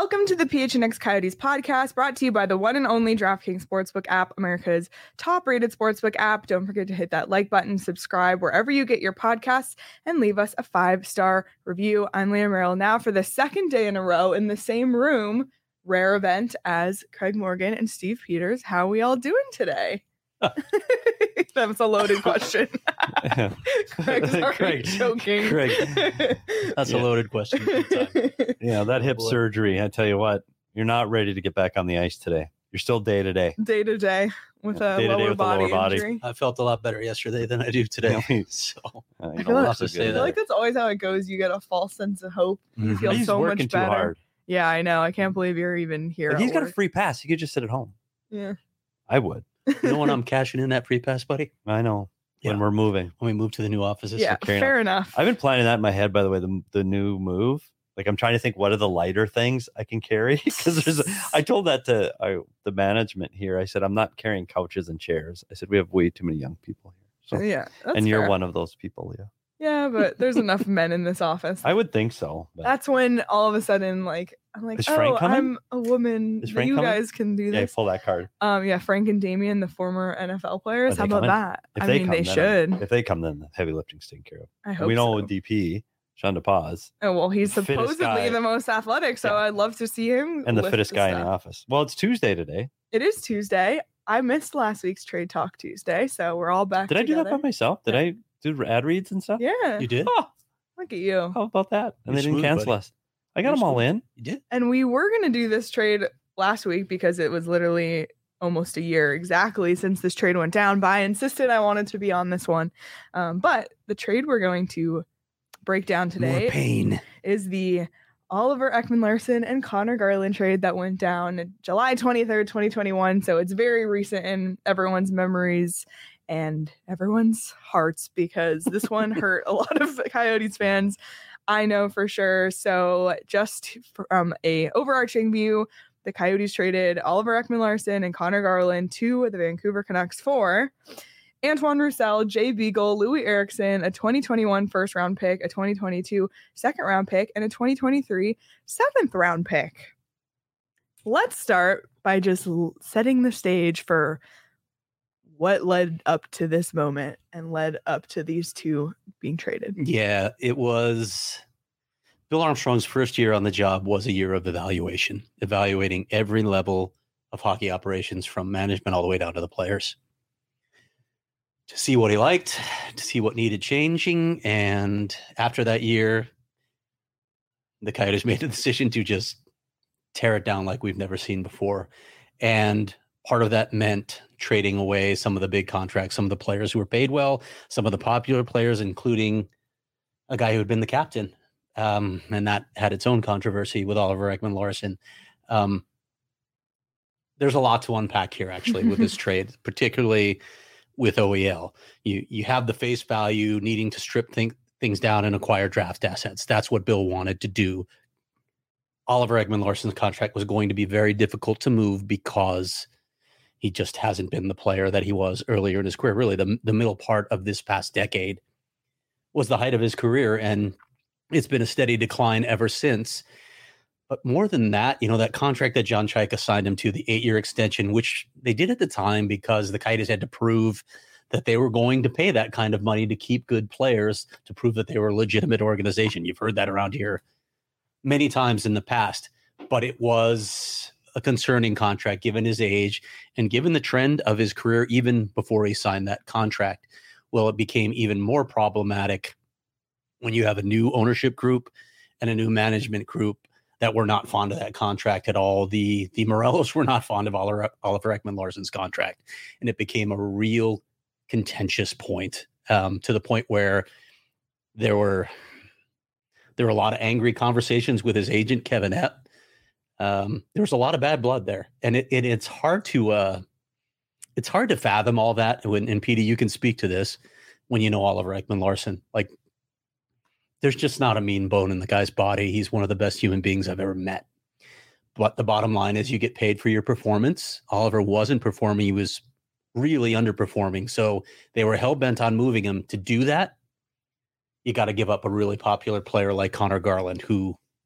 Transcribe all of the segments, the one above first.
Welcome to the PHNX Coyotes podcast, brought to you by the one and only DraftKings Sportsbook app, America's top-rated sportsbook app. Don't forget to hit that like button, subscribe wherever you get your podcasts, and leave us a 5-star review. I'm Leah Merrill, now for the second day in a row in the same room, rare event, as Craig Morgan and Steve Peters. How are we all doing today? That was a loaded question. Craig's already joking. Craig. That's a loaded question. Yeah, that hip surgery, I tell you what, you're not ready to get back on the ice today. You're still day to day. Day to day with a lower body injury. I felt a lot better yesterday than I do today. So I feel like that's always how it goes. You get a false sense of hope. You feel He's so much working better. too hard. Yeah, I know. I can't believe you're even here. But he's got a free pass. He could just sit at home. Yeah. I would. You know when I'm cashing in that free pass, buddy? I know. When we're moving. When we move to the new offices. Yeah, fair enough. I've been planning that in my head, by the way, the new move. Like, I'm trying to think, what are the lighter things I can carry? Because I told that to the management here. I said, I'm not carrying couches and chairs. I said, we have way too many young people here. So, yeah, and you're one of those people, Leah. Yeah, but there's enough men in this office. I would think so. But. That's when all of a sudden, like, I'm like, Is Frank coming? I'm a woman. You guys can do this. Yeah, pull that card. Yeah, Frank and Damien, the former NFL players. How about that? They should. If they come, then the heavy lifting's taken care of. I hope we know so. DP, Sean DePaz. Oh, well, he's supposedly the most athletic, so I'd love to see him. And the fittest guy in the office. Well, it's Tuesday today. It is Tuesday. I missed last week's Trade Talk Tuesday, so we're all back together. Did I do that by myself? Did I do ad reads and stuff? Yeah. You did? Oh, look at you. How about that? And they didn't cancel us. I got them all in. You did? And we were going to do this trade last week because it was literally almost a year exactly since this trade went down. But I insisted I wanted to be on this one. But the trade we're going to break down today is the Oliver Ekman-Larsson and Connor Garland trade that went down July 23rd, 2021. So it's very recent in everyone's memories and everyone's hearts because this one hurt a lot of Coyotes fans. I know for sure. So just from a overarching view, the Coyotes traded Oliver Ekman-Larsson and Connor Garland to the Vancouver Canucks for Antoine Roussel, Jay Beagle, Louis Eriksson, a 2021 first round pick, a 2022 second round pick, and a 2023 seventh round pick. Let's start by just setting the stage for what led up to this moment and led up to these two being traded. Yeah, it was Bill Armstrong's first year on the job was a year of evaluating every level of hockey operations from management all the way down to the players to see what he liked, to see what needed changing. And after that year, the Coyotes made the decision to just tear it down like we've never seen before. And part of that meant trading away some of the big contracts, some of the players who were paid well, some of the popular players, including a guy who had been the captain. And that had its own controversy with Oliver Ekman-Larsson. There's a lot to unpack here, actually, with this trade, particularly with OEL. You have the face value needing to strip things down and acquire draft assets. That's what Bill wanted to do. Oliver Ekman-Larsson's contract was going to be very difficult to move because he just hasn't been the player that he was earlier in his career. Really, the middle part of this past decade was the height of his career, and it's been a steady decline ever since. But more than that, that contract that John Chayka signed him to, the 8-year extension, which they did at the time because the Coyotes had to prove that they were going to pay that kind of money to keep good players, to prove that they were a legitimate organization. You've heard that around here many times in the past, but it was a concerning contract given his age and given the trend of his career even before he signed that contract. Well, it became even more problematic when you have a new ownership group and a new management group that were not fond of that contract at all. The Morellos were not fond of Oliver Ekman-Larsson's contract, and it became a real contentious point, to the point where there were a lot of angry conversations with his agent, Kevin Epp. There was a lot of bad blood there, and it's hard to fathom all that. And Petey, you can speak to this when you know Oliver Ekman-Larsson. Like, there's just not a mean bone in the guy's body. He's one of the best human beings I've ever met. But the bottom line is you get paid for your performance. Oliver wasn't performing. He was really underperforming. So they were hell-bent on moving him. To do that, you got to give up a really popular player like Connor Garland, who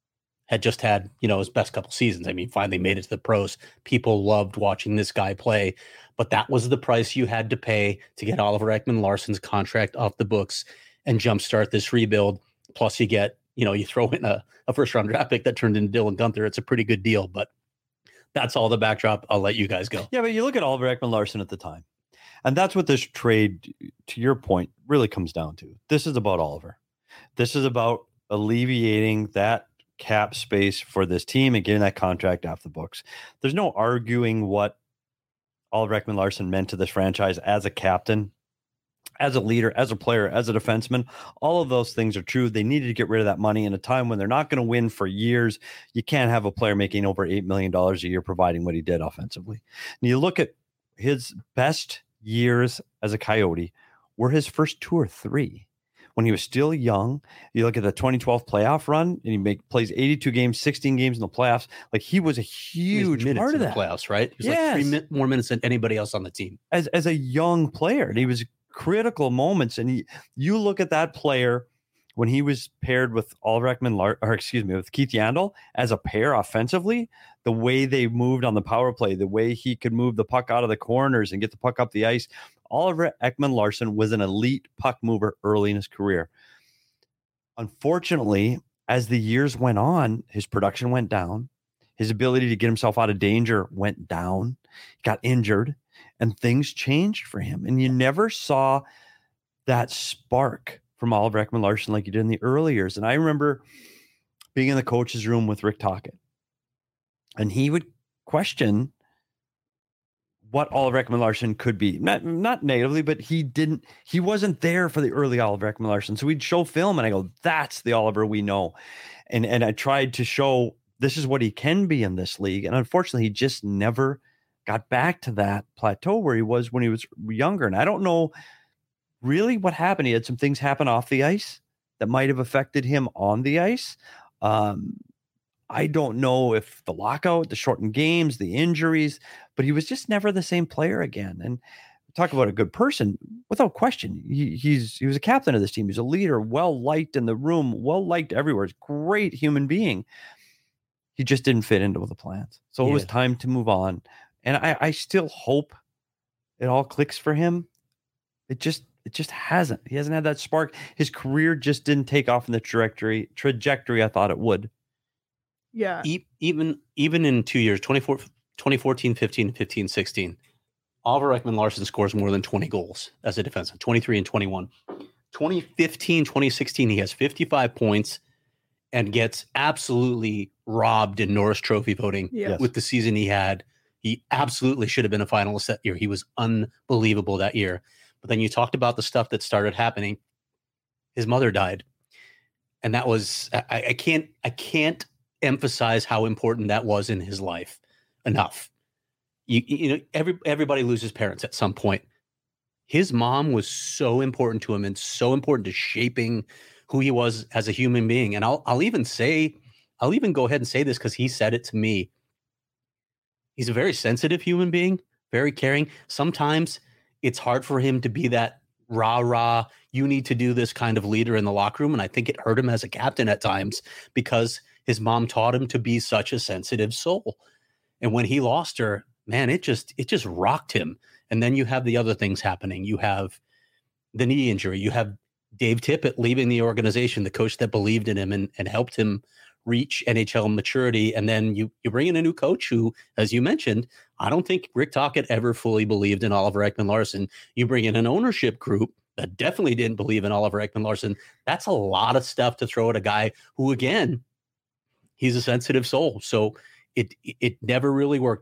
had just had, his best couple seasons. I mean, finally made it to the pros. People loved watching this guy play, but that was the price you had to pay to get Oliver Ekman-Larsson's contract off the books and jumpstart this rebuild. Plus you get, you throw in a first round draft pick that turned into Dylan Gunther. It's a pretty good deal, but that's all the backdrop. I'll let you guys go. Yeah, but you look at Oliver Ekman-Larsson at the time, and that's what this trade, to your point, really comes down to. This is about Oliver. This is about alleviating that cap space for this team and getting that contract off the books. There's no arguing what Oliver Ekman-Larsson meant to this franchise as a captain, as a leader, as a player, as a defenseman. All of those things are true. They needed to get rid of that money in a time when they're not going to win for years. You can't have a player making over $8 million a year providing what he did offensively. And you look at his best years as a Coyote were his first 2 or 3. When he was still young, you look at the 2012 playoff run, and he plays 82 games, 16 games in the playoffs. Like, he was a huge part of that. Playoffs, right? He was like 3 more minutes than anybody else on the team as a young player, and he was critical moments. And you look at that player when he was paired with Oliver Ekman-Larsson, with Keith Yandle as a pair offensively, the way they moved on the power play, the way he could move the puck out of the corners and get the puck up the ice. Oliver Ekman-Larsson was an elite puck mover early in his career. Unfortunately, as the years went on, his production went down. His ability to get himself out of danger went down. He got injured, and things changed for him. And you never saw that spark from Oliver Ekman-Larsson like you did in the early years. And I remember being in the coach's room with Rick Tocchet, and he would question what Oliver Ekman-Larsson could be. Not negatively, but he wasn't there for the early Oliver Ekman-Larsson. So we'd show film and I go, that's the Oliver we know. And I tried to show this is what he can be in this league. And unfortunately, he just never got back to that plateau where he was when he was younger. And I don't know really what happened. He had some things happen off the ice that might have affected him on the ice. I don't know if the lockout, the shortened games, the injuries, but he was just never the same player again. And talk about a good person, without question. He was a captain of this team. He's a leader, well-liked in the room, well-liked everywhere. Great human being. He just didn't fit into the plans. So it was time to move on. And I still hope it all clicks for him. It just hasn't. He hasn't had that spark. His career just didn't take off in the trajectory I thought it would. Yeah. Even in 2 years, 2014, 15, 15, 16, Oliver Ekman-Larsson scores more than 20 goals as a defenseman, 23 and 21. 2015, 2016, he has 55 points and gets absolutely robbed in Norris Trophy voting with the season he had. He absolutely should have been a finalist that year. He was unbelievable that year. But then you talked about the stuff that started happening. His mother died. And that was, I can't emphasize how important that was in his life enough. Everybody loses parents at some point. His mom was so important to him and so important to shaping who he was as a human being. And I'll even go ahead and say this because he said it to me. He's a very sensitive human being, very caring. Sometimes it's hard for him to be that rah, you need to do this kind of leader in the locker room. And I think it hurt him as a captain at times because his mom taught him to be such a sensitive soul. And when he lost her, man, it just rocked him. And then you have the other things happening. You have the knee injury. You have Dave Tippett leaving the organization, the coach that believed in him and helped him reach NHL maturity. And then you bring in a new coach who, as you mentioned, I don't think Rick Tocchet ever fully believed in Oliver Ekman-Larsson. You bring in an ownership group that definitely didn't believe in Oliver Ekman-Larsson. That's a lot of stuff to throw at a guy who, again, he's a sensitive soul. So it never really worked.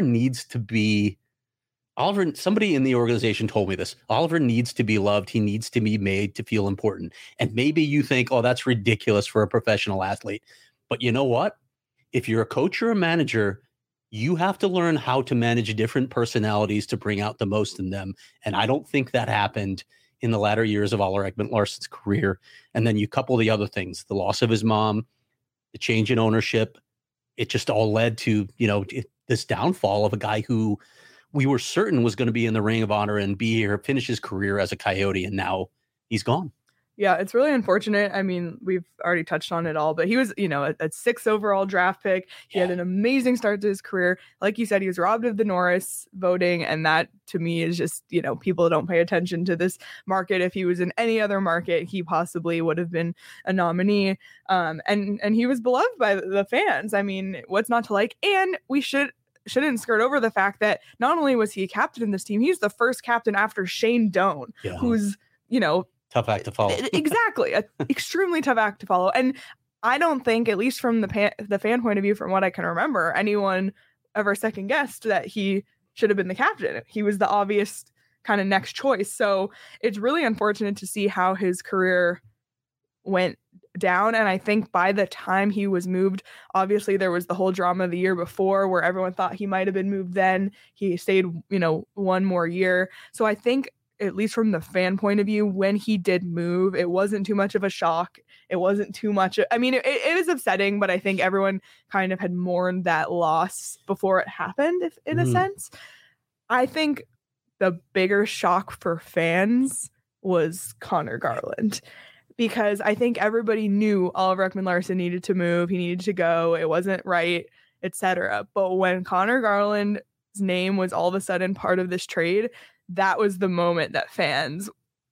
Somebody in the organization told me this. Oliver needs to be loved. He needs to be made to feel important. And maybe you think, oh, that's ridiculous for a professional athlete. But you know what? If you're a coach or a manager, you have to learn how to manage different personalities to bring out the most in them. And I don't think that happened in the latter years of Oliver Ekman-Larsson's career. And then you couple the other things, the loss of his mom, the change in ownership. It just all led to, this downfall of a guy who we were certain was going to be in the Ring of Honor and be here, finish his career as a Coyote, and now he's gone. Yeah, it's really unfortunate. I mean, we've already touched on it all, but he was, a 6th overall draft pick. He had an amazing start to his career. Like you said, he was robbed of the Norris voting. And that to me is just, people don't pay attention to this market. If he was in any other market, he possibly would have been a nominee. And he was beloved by the fans. I mean, what's not to like? And we shouldn't skirt over the fact that not only was he a captain in this team, he's the first captain after Shane Doan, who's, tough act to follow. Exactly. An extremely tough act to follow. And I don't think, at least from the fan point of view, from what I can remember, anyone ever second guessed that he should have been the captain. He was the obvious kind of next choice. So it's really unfortunate to see how his career went down. And I think by the time he was moved, obviously there was the whole drama the year before where everyone thought he might have been moved then. He stayed, one more year. So I think, at least from the fan point of view, when he did move, it wasn't too much of a shock. It wasn't too much. I mean, it was upsetting, but I think everyone kind of had mourned that loss before it happened, in a sense. I think the bigger shock for fans was Connor Garland, because I think everybody knew Oliver Ekman-Larsson needed to move. He needed to go. It wasn't right, etc. But when Connor Garland's name was all of a sudden part of this trade, that was the moment that fans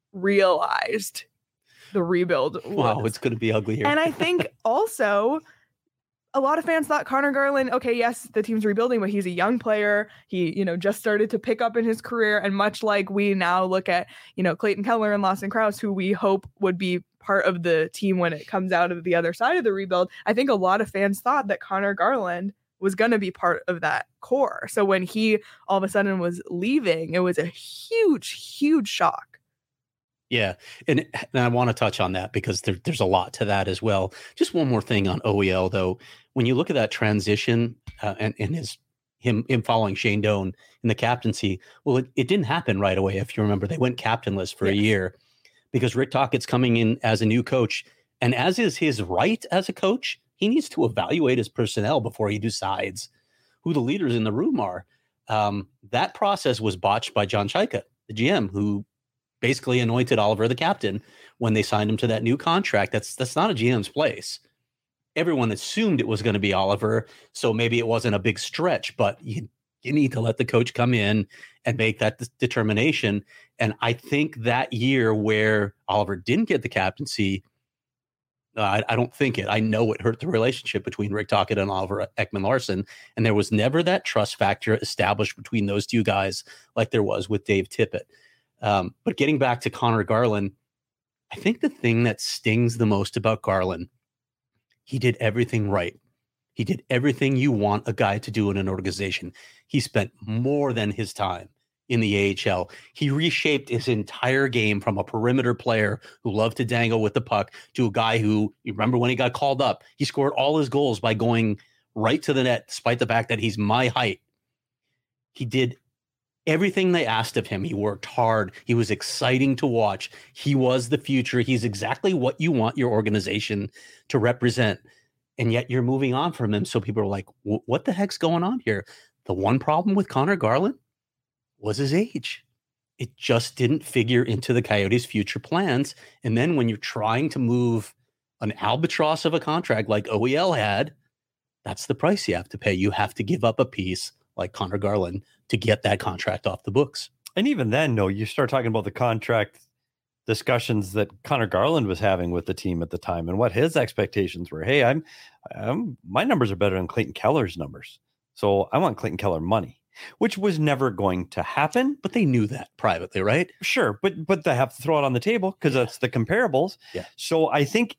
realized the rebuild was. Wow, it's going to be ugly here. And I think also a lot of fans thought Connor Garland, okay, yes, the team's rebuilding, but he's a young player. He, just started to pick up in his career. And much like we now look at, Clayton Keller and Lawson Crouse, who we hope would be part of the team when it comes out of the other side of the rebuild, I think a lot of fans thought that Connor Garland was going to be part of that core. So when he all of a sudden was leaving, it was a huge, huge shock. Yeah. And I want to touch on that because there's a lot to that as well. Just one more thing on OEL, though. When you look at that transition and him following Shane Doan in the captaincy, well, it didn't happen right away. If you remember, they went captainless for a year because Rick Tockett's coming in as a new coach. And as is his right as a coach, he needs to evaluate his personnel before he decides who the leaders in the room are. That process was botched by John Chaika, the GM, who basically anointed Oliver the captain when they signed him to that new contract. That's not a GM's place. Everyone assumed it was going to be Oliver, so maybe it wasn't a big stretch, but you need to let the coach come in and make that determination. And I think that year where Oliver didn't get the captaincy, I don't think it. I know it hurt the relationship between Rick Tocchet and Oliver Ekman-Larsson, and there was never that trust factor established between those two guys like there was with Dave Tippett. But getting back to Connor Garland, I think the thing that stings the most about Garland, he did everything right. He did everything you want a guy to do in an organization. He spent more than his time in the AHL. He reshaped his entire game from a perimeter player who loved to dangle with the puck to a guy who, you remember when he got called up, he scored all his goals by going right to the net, despite the fact that he's my height. He did everything they asked of him. He worked hard. He was exciting to watch. He was the future. He's exactly what you want your organization to represent. And yet you're moving on from him. So people are like, what the heck's going on here? The one problem with Connor Garland was his age. It just didn't figure into the Coyotes' future plans. And then when you're trying to move an albatross of a contract like OEL had, that's the price you have to pay. You have to give up a piece like Connor Garland to get that contract off the books. And even then, no, you start talking about the contract discussions that Connor Garland was having with the team at the time and what his expectations were. Hey, my numbers are better than Clayton Keller's numbers, so I want Clayton Keller money, which was never going to happen. But they knew that privately, right? Sure, but they have to throw it on the table because that's the comparables. Yeah. So I think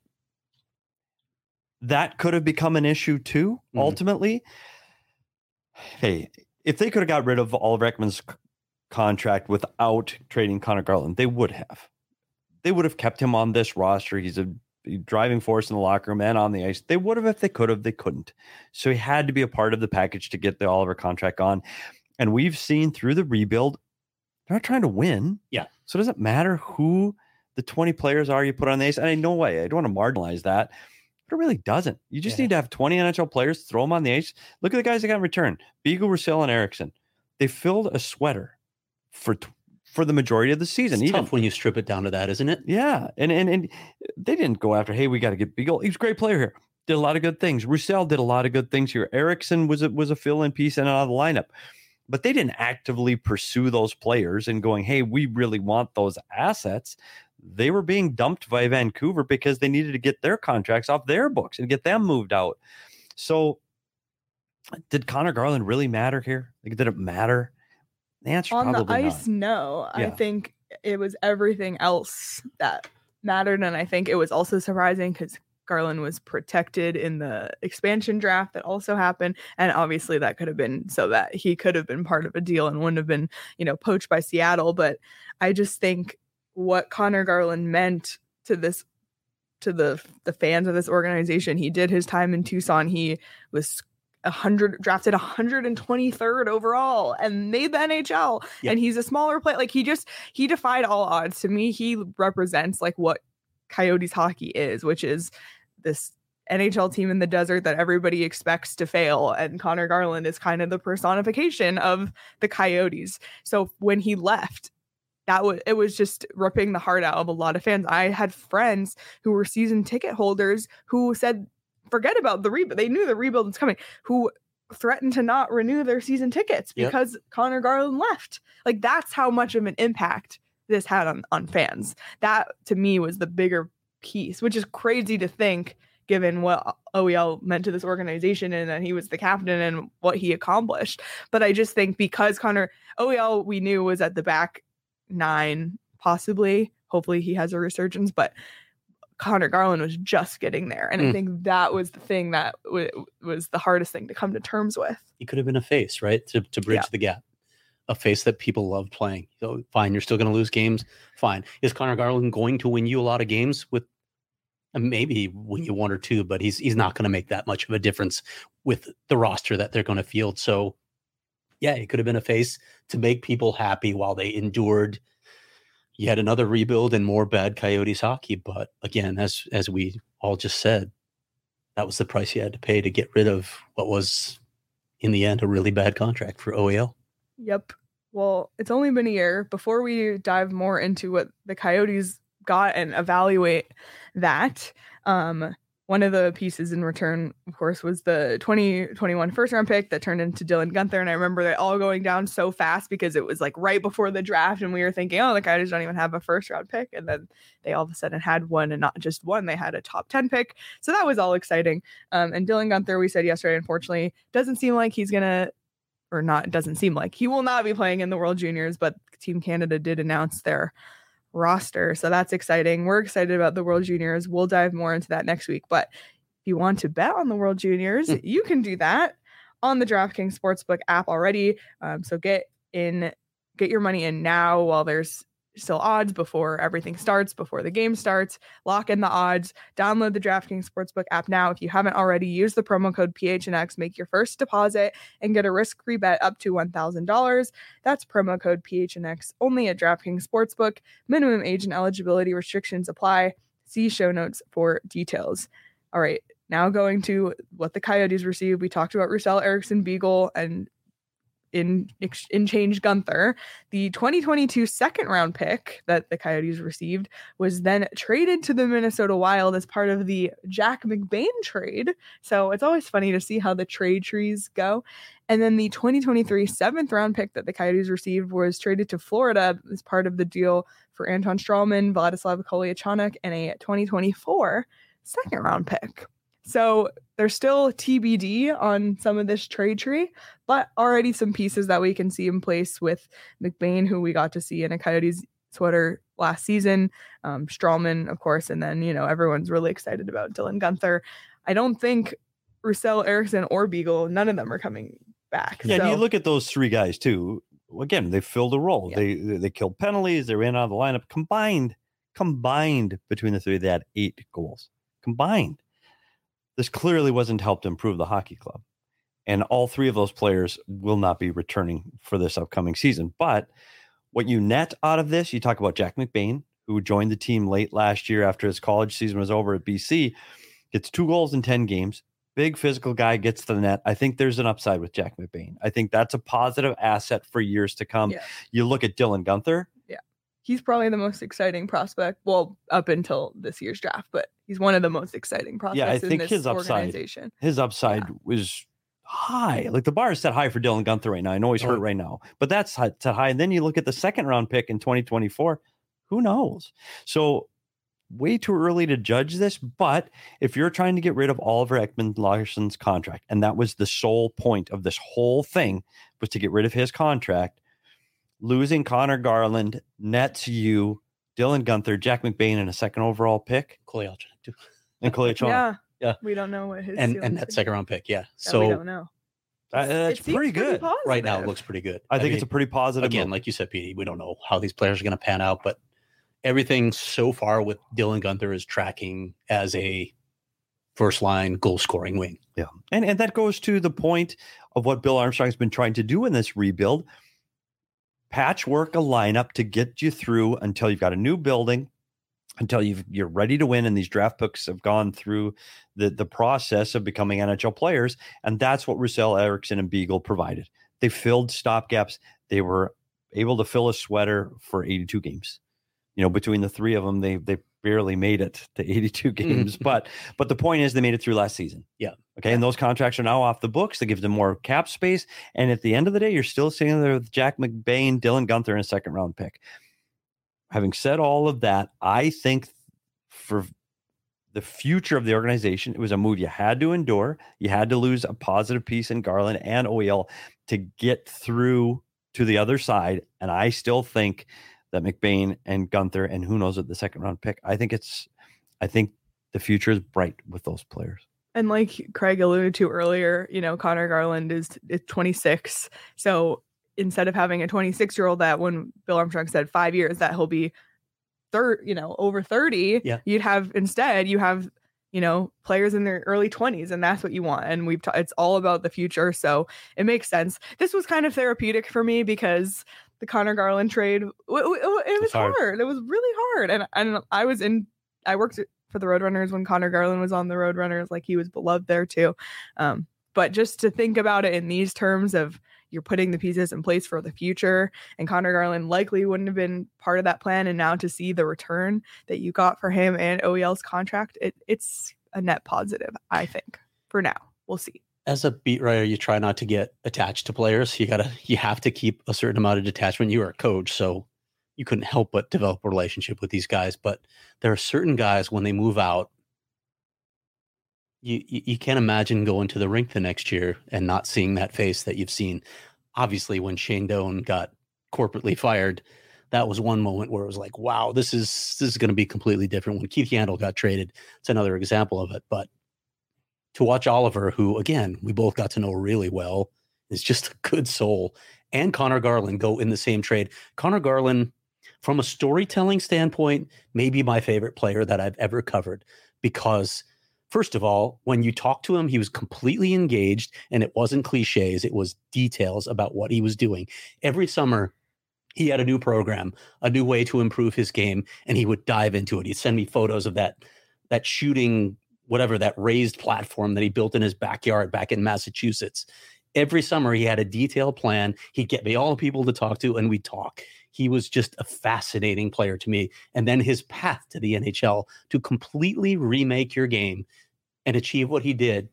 that could have become an issue too, ultimately. Hey, if they could have got rid of Oliver Ekman's contract without trading Connor Garland, they would have. They would have kept him on this roster. He's a driving force in the locker room and on the ice. They would have if they could have. They couldn't. So he had to be a part of the package to get the Oliver contract on. And we've seen through the rebuild, they're not trying to win. Yeah. So it doesn't matter who the 20 players are you put on the ice. And I know why. I don't want to marginalize that. But it really doesn't. You just need to have 20 NHL players, throw them on the ice. Look at the guys that got in return. Beagle, Roussel, and Eriksson. They filled a sweater for for the majority of the season. It's tough when you strip it down to that, isn't it? Yeah. And they didn't go after, hey, we got to get Beagle. He was a great player here. Did a lot of good things. Roussel did a lot of good things here. Erickson was a fill-in piece and out of the lineup. But they didn't actively pursue those players and going, hey, we really want those assets. They were being dumped by Vancouver because they needed to get their contracts off their books and get them moved out. So did Connor Garland really matter here? Like, did it matter? The answer on the probably ice, not. no. Yeah. I think it was everything else that mattered. And I think it was also surprising because Garland was protected in the expansion draft that also happened. And obviously that could have been so that he could have been part of a deal and wouldn't have been, poached by Seattle. But I just think what Connor Garland meant to the fans of this organization, he did his time in Tucson. He was drafted 123rd overall and made the NHL. Yep. And he's a smaller player. Like he defied all odds. To me, he represents like what Coyotes hockey is, which is this NHL team in the desert that everybody expects to fail. And Connor Garland is kind of the personification of the Coyotes. So when he left, it was just ripping the heart out of a lot of fans. I had friends who were season ticket holders who said, forget about the rebuild. They knew the rebuild was coming, who threatened to not renew their season tickets because Connor Garland left. Like, that's how much of an impact this had on fans. That to me was the bigger piece, which is crazy to think given what OEL meant to this organization and that he was the captain and what he accomplished. But I just think because OEL we knew was at the back nine, possibly, hopefully he has a resurgence, but Connor Garland was just getting there. And I think that was the thing that was the hardest thing to come to terms with. He could have been a face, right? To bridge the gap. A face that people love playing. So fine, you're still going to lose games. Fine. Is Connor Garland going to win you a lot of games with maybe win you one or two, but he's not going to make that much of a difference with the roster that they're going to field. So yeah, it could have been a face to make people happy while they endured yet another rebuild and more bad Coyotes hockey. But again, as we all just said, that was the price you had to pay to get rid of what was in the end a really bad contract for OEL. Yep. Well, it's only been a year. Before we dive more into what the Coyotes got and evaluate that, one of the pieces in return, of course, was the 2021 first round pick that turned into Dylan Guenther. And I remember it all going down so fast because it was like right before the draft. And we were thinking, oh, the Coyotes don't even have a first round pick. And then they all of a sudden had one, and not just one, they had a top 10 pick. So that was all exciting. And Dylan Guenther, we said yesterday, unfortunately, doesn't seem like he's going to, or not, it doesn't seem like he will not be playing in the World Juniors, but Team Canada did announce their roster. So that's exciting. We're excited about the World Juniors. We'll dive more into that next week. But if you want to bet on the World Juniors, you can do that on the DraftKings Sportsbook app already. So get your money in now while there's still odds, before everything starts, before the game starts. Lock in the odds. Download the DraftKings Sportsbook app now. If you haven't already, use the promo code PHNX, make your first deposit, and get a risk-free bet up to $1,000. That's promo code PHNX only at DraftKings Sportsbook. Minimum age and eligibility restrictions apply. See show notes for details. All right, now going to what the Coyotes received. We talked about Roussel, Eriksson, Beagle, and in change Guenther. The 2022 second round pick that the Coyotes received was then traded to the Minnesota Wild as part of the Jack McBain trade. So it's always funny to see how the trade trees go. And then the 2023 seventh round pick that the Coyotes received was traded to Florida as part of the deal for Anton Strawman, Vladislav Kolyachonok, and a 2024 second round pick. So there's still TBD on some of this trade tree, but already some pieces that we can see in place with McBain, who we got to see in a Coyotes sweater last season, Strawman, of course, and then, everyone's really excited about Dylan Guenther. I don't think Roussel, Eriksson, or Beagle, none of them are coming back. Yeah, and you look at those three guys too. Again, they filled a role. Yeah. They killed penalties. They ran out of the lineup. Combined between the three, they had 8 goals. Combined. This clearly wasn't helped improve the hockey club. And all 3 of those players will not be returning for this upcoming season. But what you net out of this, you talk about Jack McBain, who joined the team late last year after his college season was over at BC, gets 2 goals in 10 games. Big physical guy, gets to the net. I think there's an upside with Jack McBain. I think that's a positive asset for years to come. Yeah. You look at Dylan Guenther. he's probably the most exciting prospect. Well, up until this year's draft, but he's one of the most exciting prospects in this organization. His upside was high. Like the bar is set high for Dylan Guenther right now. I know he's hurt right now, but that's set high. And then you look at the second round pick in 2024. Who knows? So way too early to judge this. But if you're trying to get rid of Oliver Ekman-Larsson's contract, and that was the sole point of this whole thing, was to get rid of his contract, losing Connor Garland nets you Dylan Guenther, Jack McBain, and a second overall pick. Coley Alchinick too. And Coley Alchinick. Yeah. We don't know what his and that second round pick. Yeah. So we don't know. That's pretty good. Right now, it looks pretty good. I think it's a pretty positive. Again, move. Like you said, Petey, we don't know how these players are going to pan out, but everything so far with Dylan Guenther is tracking as a first line goal scoring wing. Yeah. And that goes to the point of what Bill Armstrong has been trying to do in this rebuild. Patchwork a lineup to get you through until you've got a new building, until you're ready to win, and these draft picks have gone through the process of becoming NHL players. And that's what Roussel, Eriksson, and Beagle provided. They filled stopgaps. They were able to fill a sweater for 82 games. Between the three of them, they barely made it to 82 games. But the point is, they made it through last season. Yeah. Okay. And those contracts are now off the books. That gives them more cap space. And at the end of the day, you're still sitting there with Jack McBain, Dylan Guenther, and a second round pick. Having said all of that, I think for the future of the organization, it was a move you had to endure. You had to lose a positive piece in Garland and OEL to get through to the other side. And I still think that McBain and Guenther, and who knows at the second round pick, I think the future is bright with those players. And like Craig alluded to earlier, Connor Garland is 26. So instead of having a 26-year-old that when Bill Armstrong said 5 years that he'll be over 30, you have players in their early 20s, and that's what you want. And it's all about the future. So it makes sense. This was kind of therapeutic for me because the Connor Garland trade, it was hard. It was really hard. And I worked for the Roadrunners when Connor Garland was on the Roadrunners, like he was beloved there too. But just to think about it in these terms of you're putting the pieces in place for the future, and Connor Garland likely wouldn't have been part of that plan. And now to see the return that you got for him and OEL's contract, it's a net positive, I think, for now. We'll see. As a beat writer, you try not to get attached to players. You have to keep a certain amount of detachment. You are a coach, so you couldn't help but develop a relationship with these guys. But there are certain guys, when they move out, you can't imagine going to the rink the next year and not seeing that face that you've seen. Obviously, when Shane Doan got corporately fired, that was one moment where it was like, wow, this is going to be completely different. When Keith Yandle got traded, it's another example of it. But to watch Oliver, who, again, we both got to know really well, is just a good soul, and Connor Garland go in the same trade. Connor Garland, from a storytelling standpoint, maybe my favorite player that I've ever covered, because first of all, when you talk to him, he was completely engaged, and it wasn't cliches. It was details about what he was doing. Every summer, he had a new program, a new way to improve his game, and he would dive into it. He'd send me photos of that shooting, whatever, that raised platform that he built in his backyard back in Massachusetts. Every summer, he had a detailed plan. He'd get me all the people to talk to, and we'd talk. He was just a fascinating player to me. And then his path to the NHL to completely remake your game and achieve what he did,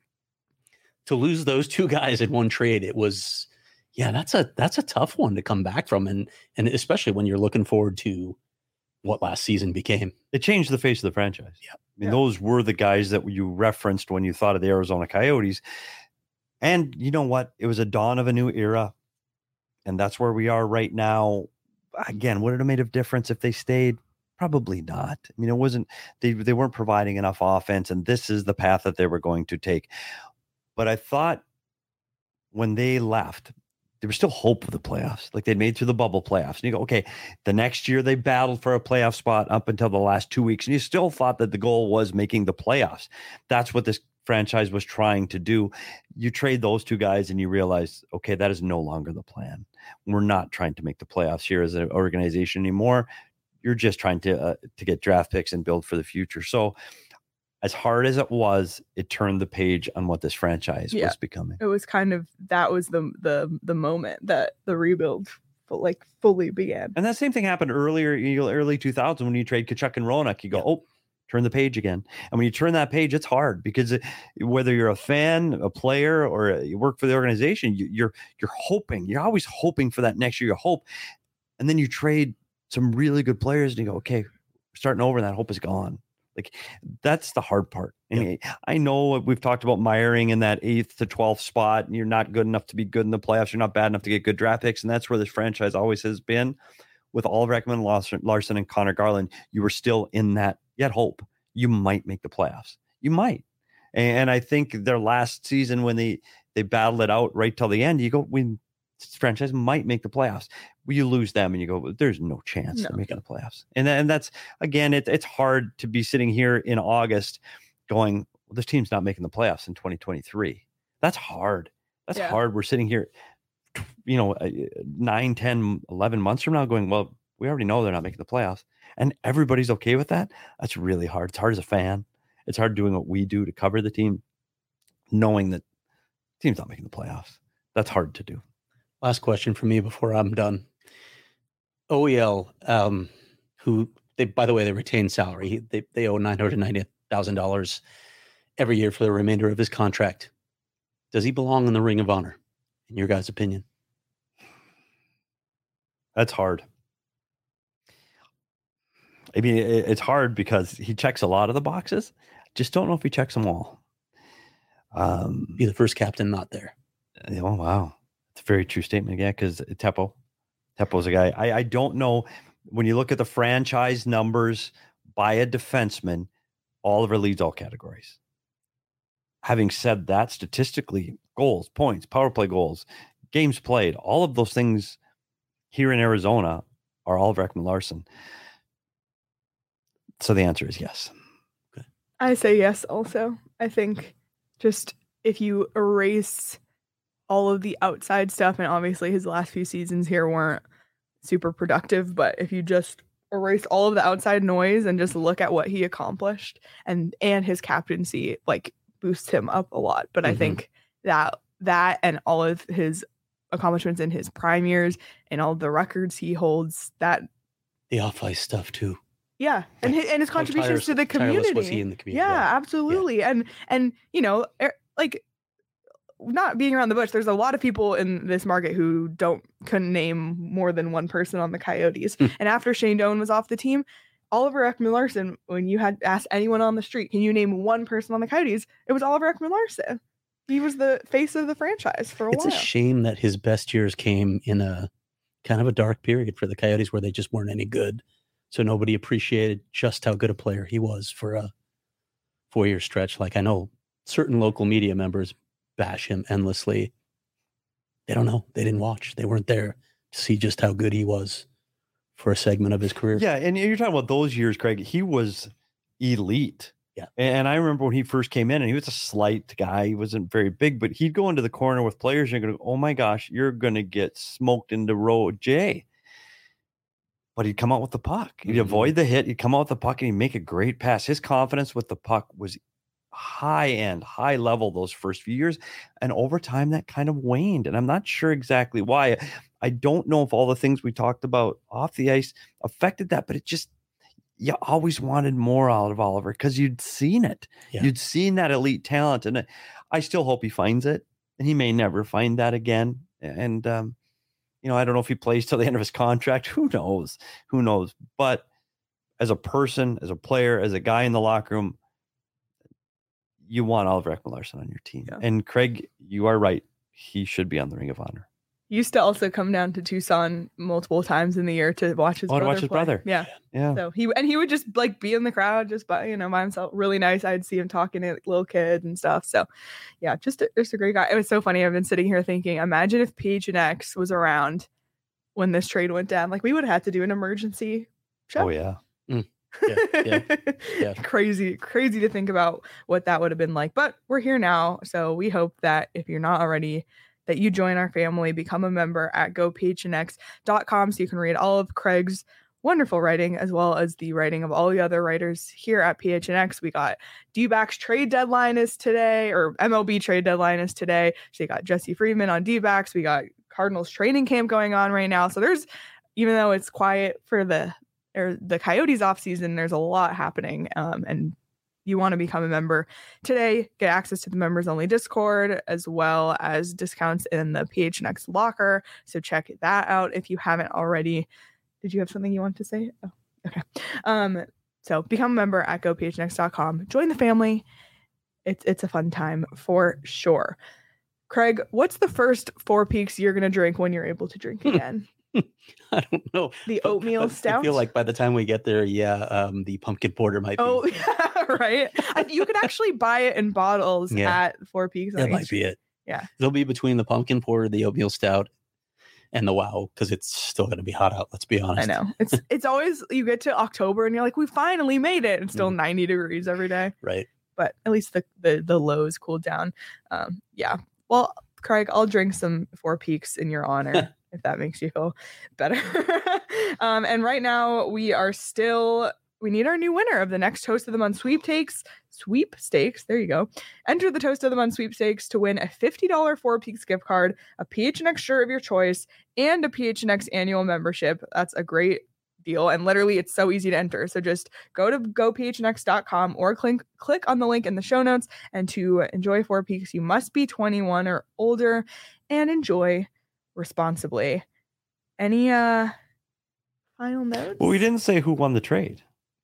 to lose those two guys in one trade, it was, that's a tough one to come back from. And especially when you're looking forward to what last season became. It changed the face of the franchise. Yeah. I mean, those were the guys that you referenced when you thought of the Arizona Coyotes. And you know what? It was a dawn of a new era. And that's where we are right now. Again, would it have made a difference if they stayed? Probably not. I mean, it wasn't, they weren't providing enough offense, and this is the path that they were going to take. But I thought when they left, there was still hope of the playoffs. Like they'd made through the bubble playoffs. And you go, okay, the next year they battled for a playoff spot up until the last 2 weeks. And you still thought that the goal was making the playoffs. That's what this franchise was trying to do. You trade those two guys and you realize, okay, that is no longer the plan. We're not trying to make the playoffs here as an organization anymore. You're just trying to get draft picks and build for the future. So as hard as it was, it turned the page on what this franchise was becoming. It was kind of, that was the moment that the rebuild fully began. And that same thing happened early 2000s when you trade Tkachuk and Roanoke. You go, oh, turn the page again. And when you turn that page, it's hard because whether you're a fan, a player, or you work for the organization, you're hoping. You're always hoping for that next year. You hope, and then you trade some really good players, and you go, okay, we're starting over, and that hope is gone. Like, that's the hard part. I mean, I know we've talked about miring in that 8th to 12th spot, and you're not good enough to be good in the playoffs. You're not bad enough to get good draft picks, and that's where this franchise always has been. With Oliver Ekman Larsson and Connor Garland, you were still in that. You had hope. You might make the playoffs. You might. And I think their last season when they battled it out right till the end, you go, this franchise might make the playoffs. You lose them and you go, there's no chance of making the playoffs. And that's, again, it's hard to be sitting here in August going, well, this team's not making the playoffs in 2023. That's hard. That's hard. We're sitting here, 9, 10, 11 months from now going, well, we already know they're not making the playoffs. And everybody's okay with that. That's really hard. It's hard as a fan. It's hard doing what we do to cover the team, knowing that the team's not making the playoffs. That's hard to do. Last question for me before I'm done. OEL, who by the way, they retain salary. They owe $990,000 every year for the remainder of his contract. Does he belong in the Ring of Honor, in your guys' opinion? That's hard. I mean, it's hard because he checks a lot of the boxes. Just don't know if he checks them all. Be the first captain not there. Oh, wow. It's a very true statement again, because Teppo's a guy. I don't know. When you look at the franchise numbers by a defenseman, Oliver leads all categories. Having said that, statistically, goals, points, power play goals, games played, all of those things here in Arizona are Oliver Ekman Larsson. So the answer is yes. Okay. I say yes also. I think just if you erase all of the outside stuff, and obviously his last few seasons here weren't super productive, but if you just erase all of the outside noise and just look at what he accomplished, and his captaincy boosts him up a lot. But I think that and all of his accomplishments in his prime years and all the records he holds, that the off-ice stuff too. Yeah, and his contributions to the community. Was he in the community? Yeah, absolutely. Yeah. And not being around the bush, there's a lot of people in this market who couldn't name more than one person on the Coyotes. And after Shane Doan was off the team, Oliver Ekman Larsson, when you had asked anyone on the street, can you name one person on the Coyotes? It was Oliver Ekman Larsson. He was the face of the franchise for a while. It's a shame that his best years came in a kind of a dark period for the Coyotes where they just weren't any good. So nobody appreciated just how good a player he was for a 4-year stretch. I know certain local media members bash him endlessly. They don't know. They didn't watch. They weren't there to see just how good he was for a segment of his career. Yeah, and you're talking about those years, Craig. He was elite. Yeah. And I remember when he first came in, and he was a slight guy. He wasn't very big, but he'd go into the corner with players and you're going to go, oh my gosh, you're going to get smoked into row J. But he'd come out with the puck. He'd avoid the hit. He'd come out with the puck and he'd make a great pass. His confidence with the puck was high level those first few years. And over time, that kind of waned. And I'm not sure exactly why. I don't know if all the things we talked about off the ice affected that, but you always wanted more out of Oliver because you'd seen it. Yeah. You'd seen that elite talent. And I still hope he finds it. And he may never find that again. And, I don't know if he plays till the end of his contract. Who knows? But as a person, as a player, as a guy in the locker room, you want Oliver Ekman Larsson on your team. Yeah. And Craig, you are right. He should be on the Ring of Honor. He used to also come down to Tucson multiple times in the year to watch his brother. Yeah. So he would just be in the crowd just by himself. Really nice. I'd see him talking to little kids and stuff. So yeah, just a great guy. It was so funny. I've been sitting here thinking, imagine if PHNX was around when this trade went down. We would have had to do an emergency show. Oh yeah. Yeah. Crazy to think about what that would have been like. But we're here now. So we hope that if you're not already, that you join our family, become a member at gophnx.com so you can read all of Craig's wonderful writing as well as the writing of all the other writers here at PHNX. We got D-backs trade deadline is today, or MLB trade deadline is today. So you got Jesse Friedman on D-backs. We got Cardinals training camp going on right now. So there's, even though it's quiet for the Coyotes off season, there's a lot happening. And you want to become a member today, get access to the members only Discord, as well as discounts in the PHNX locker. So check that out if you haven't already. Did you have something you wanted to say? Oh, okay. So become a member at gophnx.com. Join the family. It's a fun time for sure. Craig, what's the first Four Peaks you're going to drink when you're able to drink again? I don't know. The oatmeal stout? I feel like by the time we get there, the pumpkin porter might be. Oh, yeah, right. You could actually buy it in bottles at Four Peaks. That might be it. Yeah. It'll be between the pumpkin porter, the oatmeal stout, and the wow, because it's still going to be hot out. Let's be honest. I know. It's always, you get to October and you're like, we finally made it. It's still 90 degrees every day. Right. But at least the lows cooled down. Yeah. Well, Craig, I'll drink some Four Peaks in your honor. If that makes you feel better. And right now we need our new winner of the next Toast of the Month sweepstakes. There you go. Enter the Toast of the Month sweepstakes to win a $50 Four Peaks gift card, a PHNX shirt of your choice, and a PHNX annual membership. That's a great deal. And literally it's so easy to enter. So just go to gophnx.com or click on the link in the show notes. And to enjoy Four Peaks, you must be 21 or older and enjoy responsibly. Any final notes? Well, we didn't say who won the trade.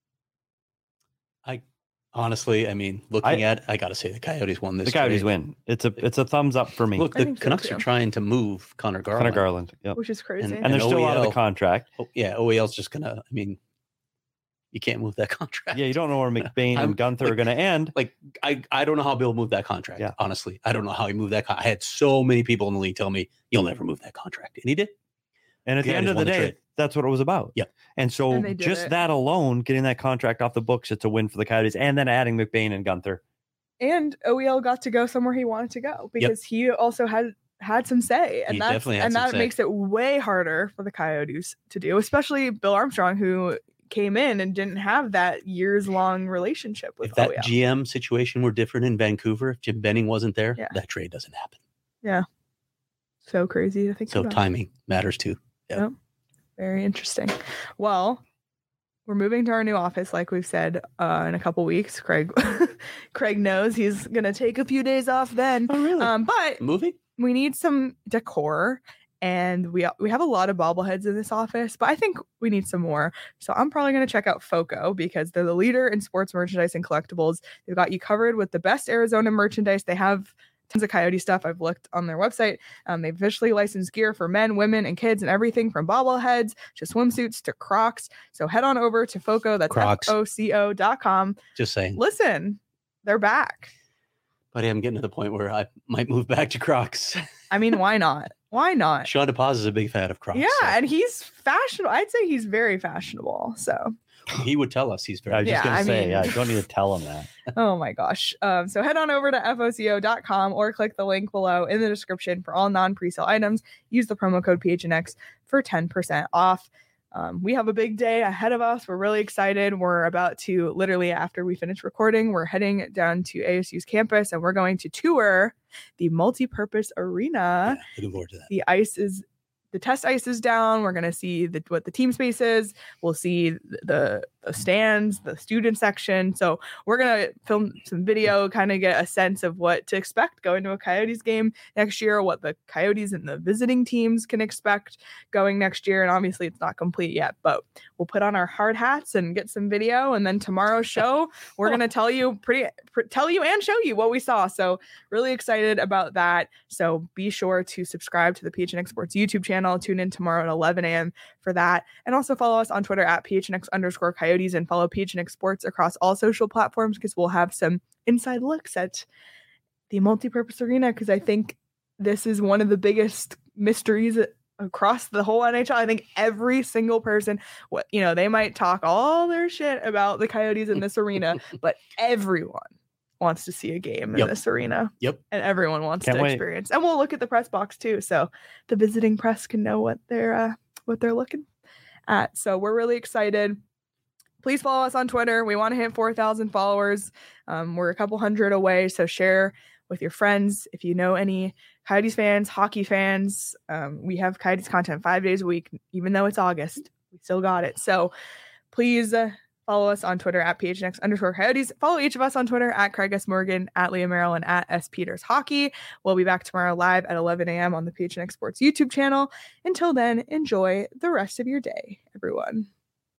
Honestly, I mean, I gotta say the Coyotes won this. The Coyotes win. It's a thumbs up for me. Look, the Canucks are trying to move Connor Garland. Yep. Which is crazy. And they're still out of the contract. OEL's just gonna. I mean, you can't move that contract. Yeah, you don't know where McBain and Gunther are gonna end. Like, I don't know how Bill moved that contract. Yeah. Honestly, I don't know how he moved that. I had so many people in the league tell me you'll never move that contract, and he did. And at the end of the day, that's what it was about. Yeah. And so just that alone, getting that contract off the books, it's a win for the Coyotes. And then adding McBain and Gunther. And OEL got to go somewhere he wanted to go because he also had some say. And that makes it way harder for the Coyotes to do, especially Bill Armstrong, who came in and didn't have that years-long relationship with OEL. If that GM situation were different in Vancouver, if Jim Benning wasn't there, that trade doesn't happen. Yeah. So crazy to think about. So timing matters too. Yeah. Yep. Very interesting. Well, we're moving to our new office, like we've said, in a couple weeks. Craig knows he's gonna take a few days off then. Oh, really? But moving, we need some decor, and we have a lot of bobbleheads in this office, but I think we need some more. So I'm probably gonna check out FOCO because they're the leader in sports merchandise and collectibles. They've got you covered with the best Arizona merchandise. They have tons of Coyote stuff. I've looked on their website. They've officially licensed gear for men, women, and kids, and everything from bobbleheads to swimsuits to Crocs. So head on over to FOCO. That's FOCO.com. Just saying. Listen, they're back. Buddy, I'm getting to the point where I might move back to Crocs. I mean, why not? Why not? Sean DePaz is a big fan of Crocs. Yeah, and he's fashionable. I'd say he's very fashionable. So he would tell us he's very. I was just gonna say, you don't need to tell him that. Oh my gosh. So head on over to FOCO.com or click the link below in the description for all non-presale items. Use the promo code PHNX for 10% off. We have a big day ahead of us. We're really excited. We're about to, literally after we finish recording, we're heading down to ASU's campus and we're going to tour the multi-purpose arena. Yeah, looking forward to that. The test ice is down. We're going to see what the team space is. We'll see the stands, the student section. So we're going to film some video, kind of get a sense of what to expect going to a Coyotes game next year, what the Coyotes and the visiting teams can expect going next year. And obviously it's not complete yet, but we'll put on our hard hats and get some video. And then tomorrow's show, we're going to tell you and show you what we saw. So really excited about that. So be sure to subscribe to the PHNX Sports YouTube channel. Tune in tomorrow at 11 a.m. for that. And also follow us on Twitter at PHNX_Coyotes and follow PHNX Sports across all social platforms because we'll have some inside looks at the multi-purpose arena because I think this is one of the biggest mysteries across the whole NHL. I think every single person, they might talk all their shit about the Coyotes in this arena, but everyone wants to see a game in this arena. Yep. And everyone wants to experience. And we'll look at the press box too. So the visiting press can know what they're looking at. So we're really excited. Please follow us on Twitter. We want to hit 4,000 followers. We're a couple hundred away. So share with your friends. If you know any Coyotes fans, hockey fans, we have Coyotes content 5 days a week, even though it's August. We still got it. So please follow us on Twitter at PHNX_Coyotes. Follow each of us on Twitter at Craig S. Morgan, at Leah Merrill, and at S. Peters Hockey. We'll be back tomorrow live at 11 a.m. on the PHNX Sports YouTube channel. Until then, enjoy the rest of your day, everyone.